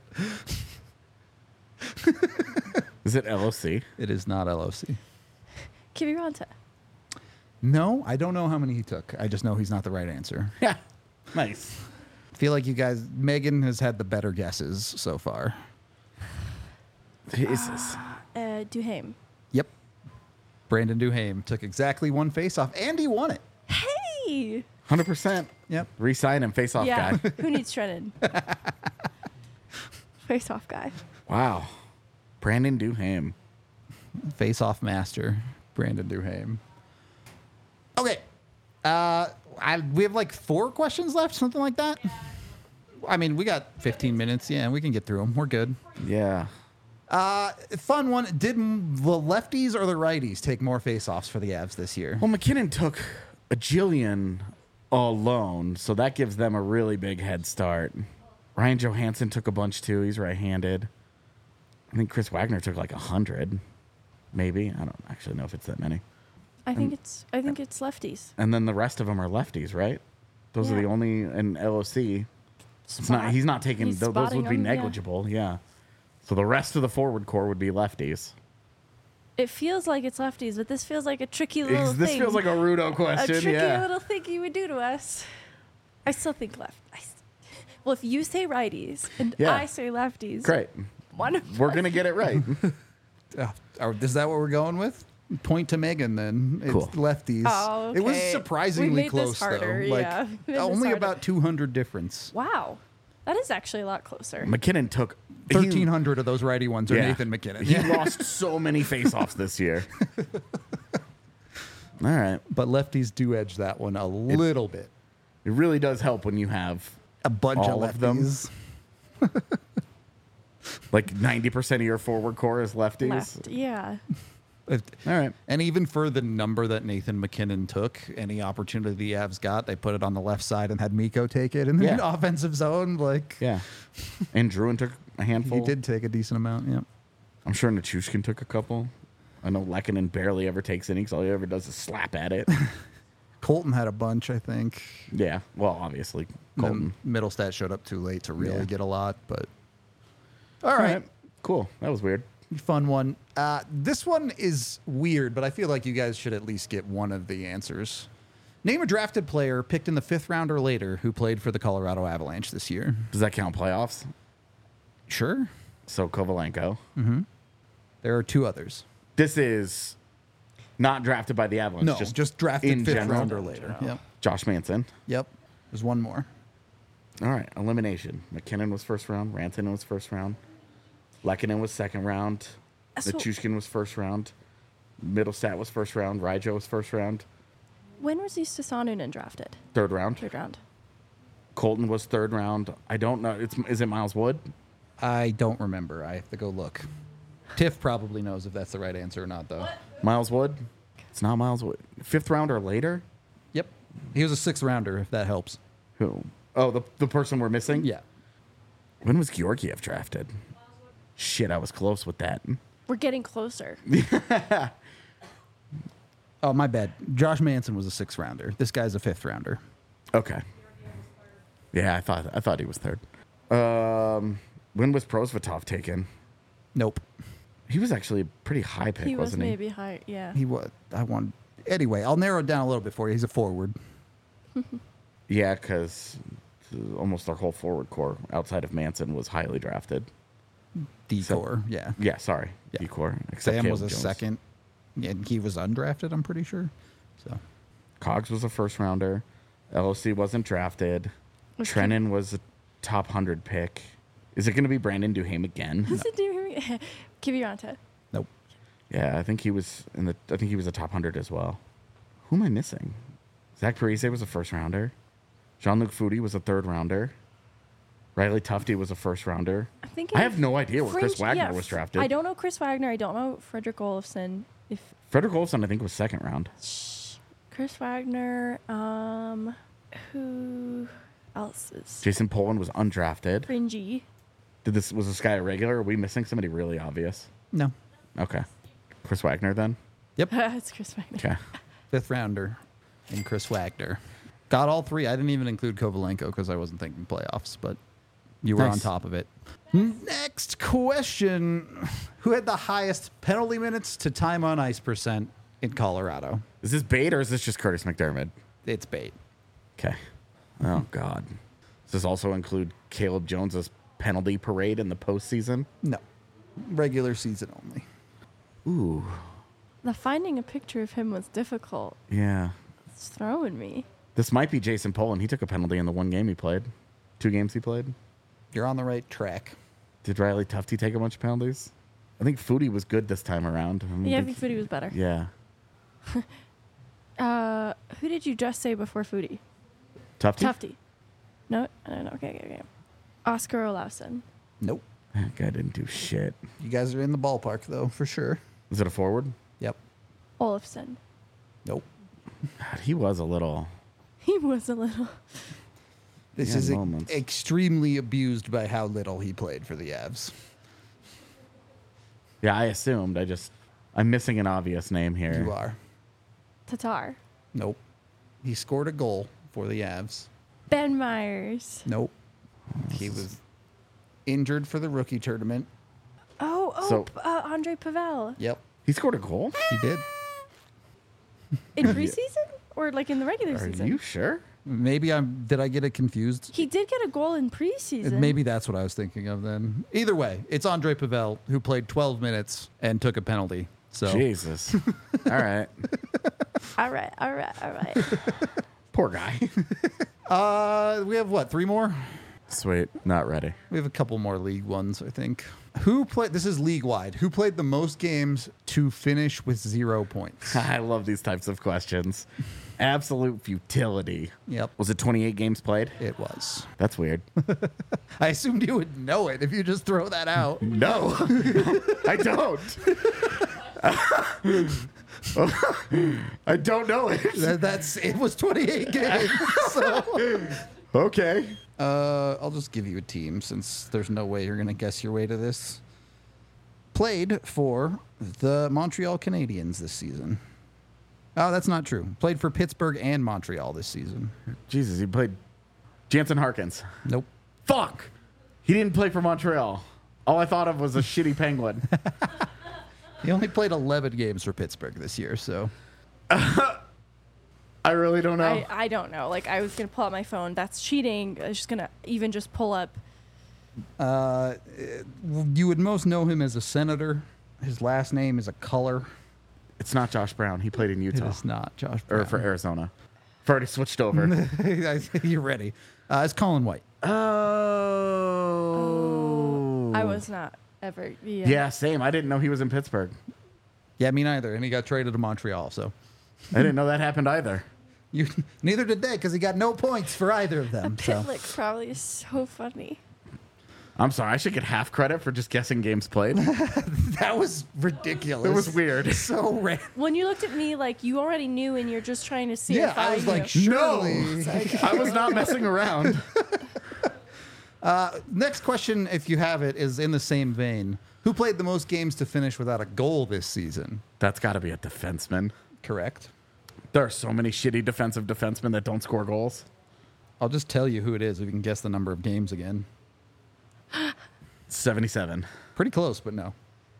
Is it LOC? It is not LOC. Kiviranta. No, I don't know how many he took. I just know he's not the right answer. Yeah. Nice. I feel like you guys, Megan has had the better guesses so far. Jesus. Duhaime. Yep. Brandon Duhaime took exactly one face-off, and he won it. Hey. 100%. Yep. Resign him, face off Yeah. guy. Who needs Trennan? Face off guy. Wow. Brandon Duhaime. Face-off master, Brandon Duhaime. Okay. We have like 4 questions left, something like that. I mean, we got 15 minutes. Yeah, we can get through them. We're good. Yeah. Fun one. Did the lefties or the righties take more face-offs for the Avs this year? Well, McKinnon took a jillion alone, so that gives them a really big head start. Ryan Johansson took a bunch too. He's right-handed. I think Chris Wagner took like 100, maybe. I don't actually know if it's that many. I think it's lefties. And then the rest of them are lefties, right? Those are Yeah. the only in LOC. It's not. He's not taking He's those. spotting Would be them, yeah. negligible. Yeah. So the rest of the forward core would be lefties. It feels like it's lefties, but this feels like a tricky little This thing. feels like a Rudo a question. tricky Yeah. little thing you would do to us. I still think left. Well, if you say righties and Yeah. I say lefties, Great. one of We're us- gonna get it right. Is that what we're going with? Point to Megan then. It's Cool. lefties. Oh, It was okay. surprisingly We made this close harder, though. Like yeah. We made this only harder. about 200 difference. Wow, that is actually a lot closer. McKinnon took 1,300 of those righty ones are Yeah. Nathan McKinnon. He lost so many faceoffs this year. All right. But lefties do edge that one a little bit. It really does help when you have A bunch all of of them. lefties. like 90% of your forward core is lefties. Left, yeah. All right. And even for the number that Nathan McKinnon took, any opportunity the Avs got, they put it on the left side and had Miko take it in the Yeah. offensive zone. Like, Yeah. And Druin took a handful. he did take a decent amount. Yeah. I'm sure Nichushkin took a couple. I know Lehkonen barely ever takes innings. All he ever does is slap at it. Colton had a bunch, I think. Yeah. Well, obviously, Colton. Colton. Middlestat showed up too late to really Yeah. get a lot, but all All right. right. Cool. That was weird. Fun one. This one is weird, but I feel like you guys should at least get one of the answers. Name a drafted player picked in the 5th round or later who played for the Colorado Avalanche this year. Does that count playoffs? Sure. So Kovalenko. There are 2 others. This is not drafted by the Avalanche. No, just drafted in 5th general? round or later. Yep. Josh Manson. Yep. There's one more. All right. Elimination. McKinnon was first round. Rantanen was first round. Lehkonen was second round. So- Nichushkin was first round. Middlestat was first round. Ryjo was first round. When was Eustis Sanunen drafted? Third round. Third round. Colton was third round. I don't know. Is it Miles Wood? I don't remember. I have to go look. Tiff probably knows if that's the right answer or not, though. Miles Wood? It's not Miles Wood. 5th round or later? Yep. He was a 6th rounder, if that helps. Who? Oh, the person we're missing? Yeah. When was Georgiev drafted? Shit, I was close with that. We're getting closer. Oh, my bad. Josh Manson was a 6th rounder. This guy's a 5th rounder. Okay. Yeah, I thought he was third. When was Prosvetov taken? Nope. He was actually a pretty high pick, He was wasn't he? maybe high. Yeah. He was. Anyway, I'll narrow it down a little bit for you. He's a forward. Yeah, because almost our whole forward core outside of Manson was highly drafted. D-core, yeah. Yeah, sorry, Yeah. D-core. Except Sam was Caleb a Jones. second. And he was undrafted, I'm pretty sure. So Cogs was a first rounder. LOC wasn't drafted. Was Trennan was a top 100 pick. Is it going to be Brandon Duhaime again? Does it do Kiviranta? nope. Yeah, I think he was a top 100 as well. Who am I missing? Zach Parise was a first rounder. Jean-Luc Foudy was a third rounder. Riley Tufte was a first rounder. I'm thinking I have no idea where Chris French- Wagner yeah, was drafted. I don't know Chris Wagner. I don't know Frederick Olofsson. If Frederick Olofsson, I think, was second round. Chris Wagner, who else is Jason Poland was undrafted. fringy? Was this guy a regular? Are we missing somebody really obvious? No. Okay. Chris Wagner then? It's Chris Wagner. Okay. 5th rounder and Chris Wagner. Got all 3. I didn't even include Kovalenko because I wasn't thinking playoffs, but you were on Nice. top of it. Next question. Who had the highest penalty minutes to time on ice percent in Colorado? Is this bait or is this just Curtis McDermott? It's bait. Okay. Oh, God. Does this also include Caleb Jones's penalty parade in the postseason? No. Regular season only. Ooh. The finding a picture of him was difficult. Yeah. It's throwing me. This might be Jason Poland. He took a penalty in the one game he played. 2 games he played. You're on the right track. Did Riley Tufte take a bunch of penalties? I think Foodie was good this time around. Yeah, I think Foodie was better. Yeah. Who did you just say before Foodie? Tufte? Tufte. No, okay. Oscar Olausson. Nope. That guy didn't do shit. You guys are in the ballpark, though, for sure. Is it a forward? Yep. Olofsson. Nope. God, he was a little... He was a little. This Yeah, is moments. extremely abused by how little he played for the Avs. Yeah, I assumed. I'm missing an obvious name here. You are. Tatar. Nope. He scored a goal for the Avs. Ben Myers. Nope. He was injured for the rookie tournament. So- Andre Pavel. Yep. He scored a goal? He did. In preseason? Or like in the regular Are season? you sure? Maybe did I get it confused? He did get a goal in preseason. Maybe that's what I was thinking of then. Either way, it's Andre Pavel who played 12 minutes and took a penalty. So Jesus. All right. All right. Poor guy. we have what, 3 more? Sweet. Not ready. We have a couple more league ones, I think. This is league wide. Who played the most games to finish with 0 points? I love these types of questions. Absolute futility. Yep, Was it 28 games played? it was. That's weird. I assumed you would know it if you just throw that out. No, I don't. I don't know it. It was 28 games. So. Okay. I'll just give you a team since there's no way you're going to guess your way to this. Played for the Montreal Canadiens this season. Oh, that's not true. Played for Pittsburgh and Montreal this season. Jesus, he played Jansen Harkins. Nope. Fuck. He didn't play for Montreal. All I thought of was a shitty Penguin. He only played 11 games for Pittsburgh this year, so. I really don't know. I don't know. Like, I was going to pull out my phone. That's cheating. I was just going to even just pull up. You would most know him as a senator. His last name is a color. It's not Josh Brown. He played in It Utah. is not Josh Brown. Or for Arizona. I've already switched over. You're ready. It's Colin White. Oh. I was not ever. Yeah, same. I didn't know he was in Pittsburgh. Yeah, me neither. And he got traded to Montreal, so. I didn't know that happened either. Neither did they, because he got no points for either of A them. So. Pitlick probably is so funny. I'm sorry. I should get half credit for just guessing games played. That was ridiculous. It was weird. So random. When you looked at me like you already knew and you're just trying to see Yeah, if I was knew. like, surely. I was not messing around. Next question, if you have it, is in the same vein. Who played the most games to finish without a goal this season? That's got to be a defenseman. Correct. There are so many shitty defensive defensemen that don't score goals. I'll just tell you who it is if you can guess the number of games again. 77. Pretty close, but no.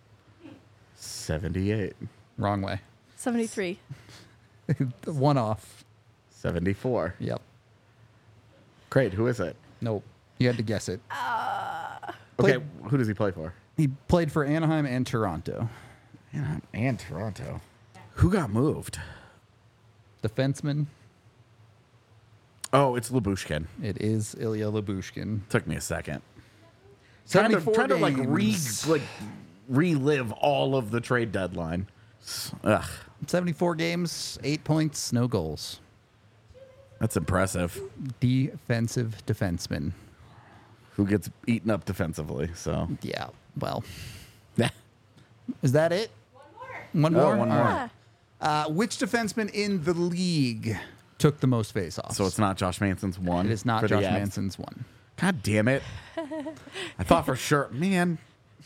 78. Wrong way. 73. One off. 74. Yep. Great. Who is it? Nope. You had to guess it. Okay. Who does he play for? He played for Anaheim and Toronto. And Toronto. Who got moved? Defenseman. Oh, it's Lyubushkin. It is Ilya Lyubushkin. Took me a second. Trying 74 to games. relive all of the trade deadline. Ugh, 74 games, 8 points, no goals. that's impressive. Defensive defenseman. Who gets eaten up defensively? So Yeah, well. yeah. Is that it? One more? Oh, one more. All right. Which defenseman in the league took the most faceoffs? So it's not Josh Manson's one. It is not for the Josh Avs? Manson's one. God damn it! I thought for sure, man.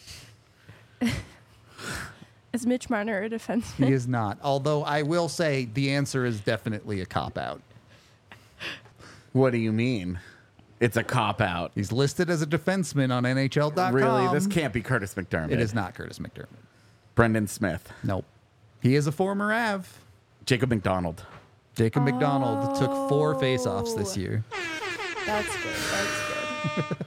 Is Mitch Marner a defenseman? He is not. Although I will say the answer is definitely a cop-out. What do you mean? It's a cop out. He's listed as a defenseman on NHL.com. Really? This can't be Curtis McDermott. It is not Curtis McDermott. Brendan Smith. Nope. He is a former Av. Jacob McDonald. Jacob McDonald took 4 faceoffs this year. That's good.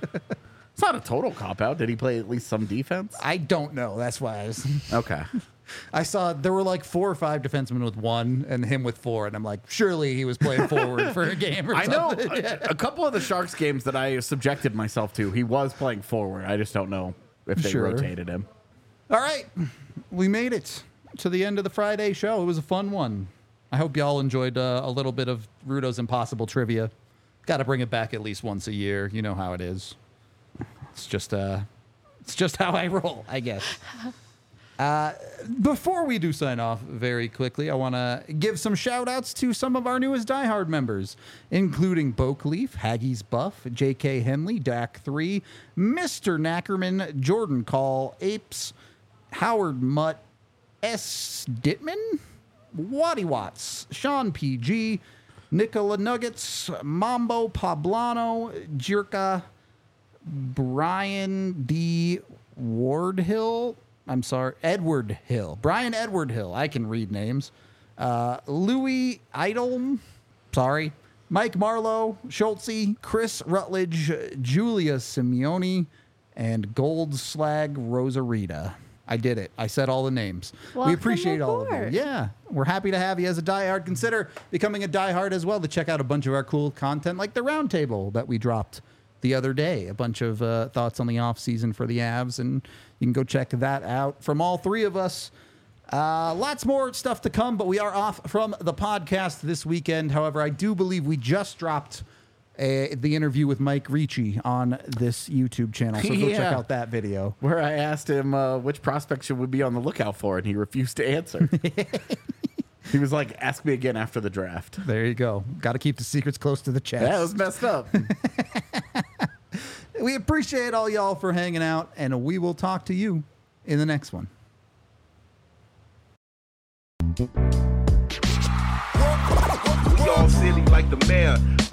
It's not a total cop out. Did he play at least some defense? I don't know. That's why I was... Okay. I saw there were like 4 or 5 defensemen with 1 and him with 4. And I'm like, surely he was playing forward for a game or I know something. a couple of the Sharks games that I subjected myself to, he was playing forward. I just don't know if they Sure. rotated him. All right. We made it to the end of the Friday show. It was a fun one. I hope y'all enjoyed a little bit of Rudo's Impossible trivia. Got to bring it back at least once a year. You know how it is. It's just how I roll, I guess. Before we do sign off very quickly, I want to give some shout outs to some of our newest Die Hard members, including Boakleaf, Haggie's Buff, J.K. Henley, Dak3, Mr. Knackerman, Jordan Call, Apes, Howard Mutt, S. Dittman, Waddy Watts, Sean P.G., Nicola Nuggets, Mambo Poblano, Jirka, Brian D. Wardhill. I'm sorry, Edward Hill. Brian Edward Hill. I can read names. Louis Idolm. Sorry. Mike Marlowe, Schultze, Chris Rutledge, Julia Simeone, and Goldslag Rosarita. I did it. I said all the names. We Welcome appreciate all of you. aboard. Yeah. We're happy to have you as a diehard. Consider becoming a diehard as well to check out a bunch of our cool content like the roundtable that we dropped the other day. A bunch of thoughts on the off season for the Avs, and you can go check that out from all 3 of us. Lots more stuff to come, but we are off from the podcast this weekend. However, I do believe we just dropped the interview with Mike Ricci on this YouTube channel, so go check Yeah. out that video. Where I asked him which prospect should we be on the lookout for, and he refused to answer. He was like, ask me again after the draft. There you go. Got to keep the secrets close to the chest. That was messed up. We appreciate all y'all for hanging out, and we will talk to you in the next one. We all silly like the mayor.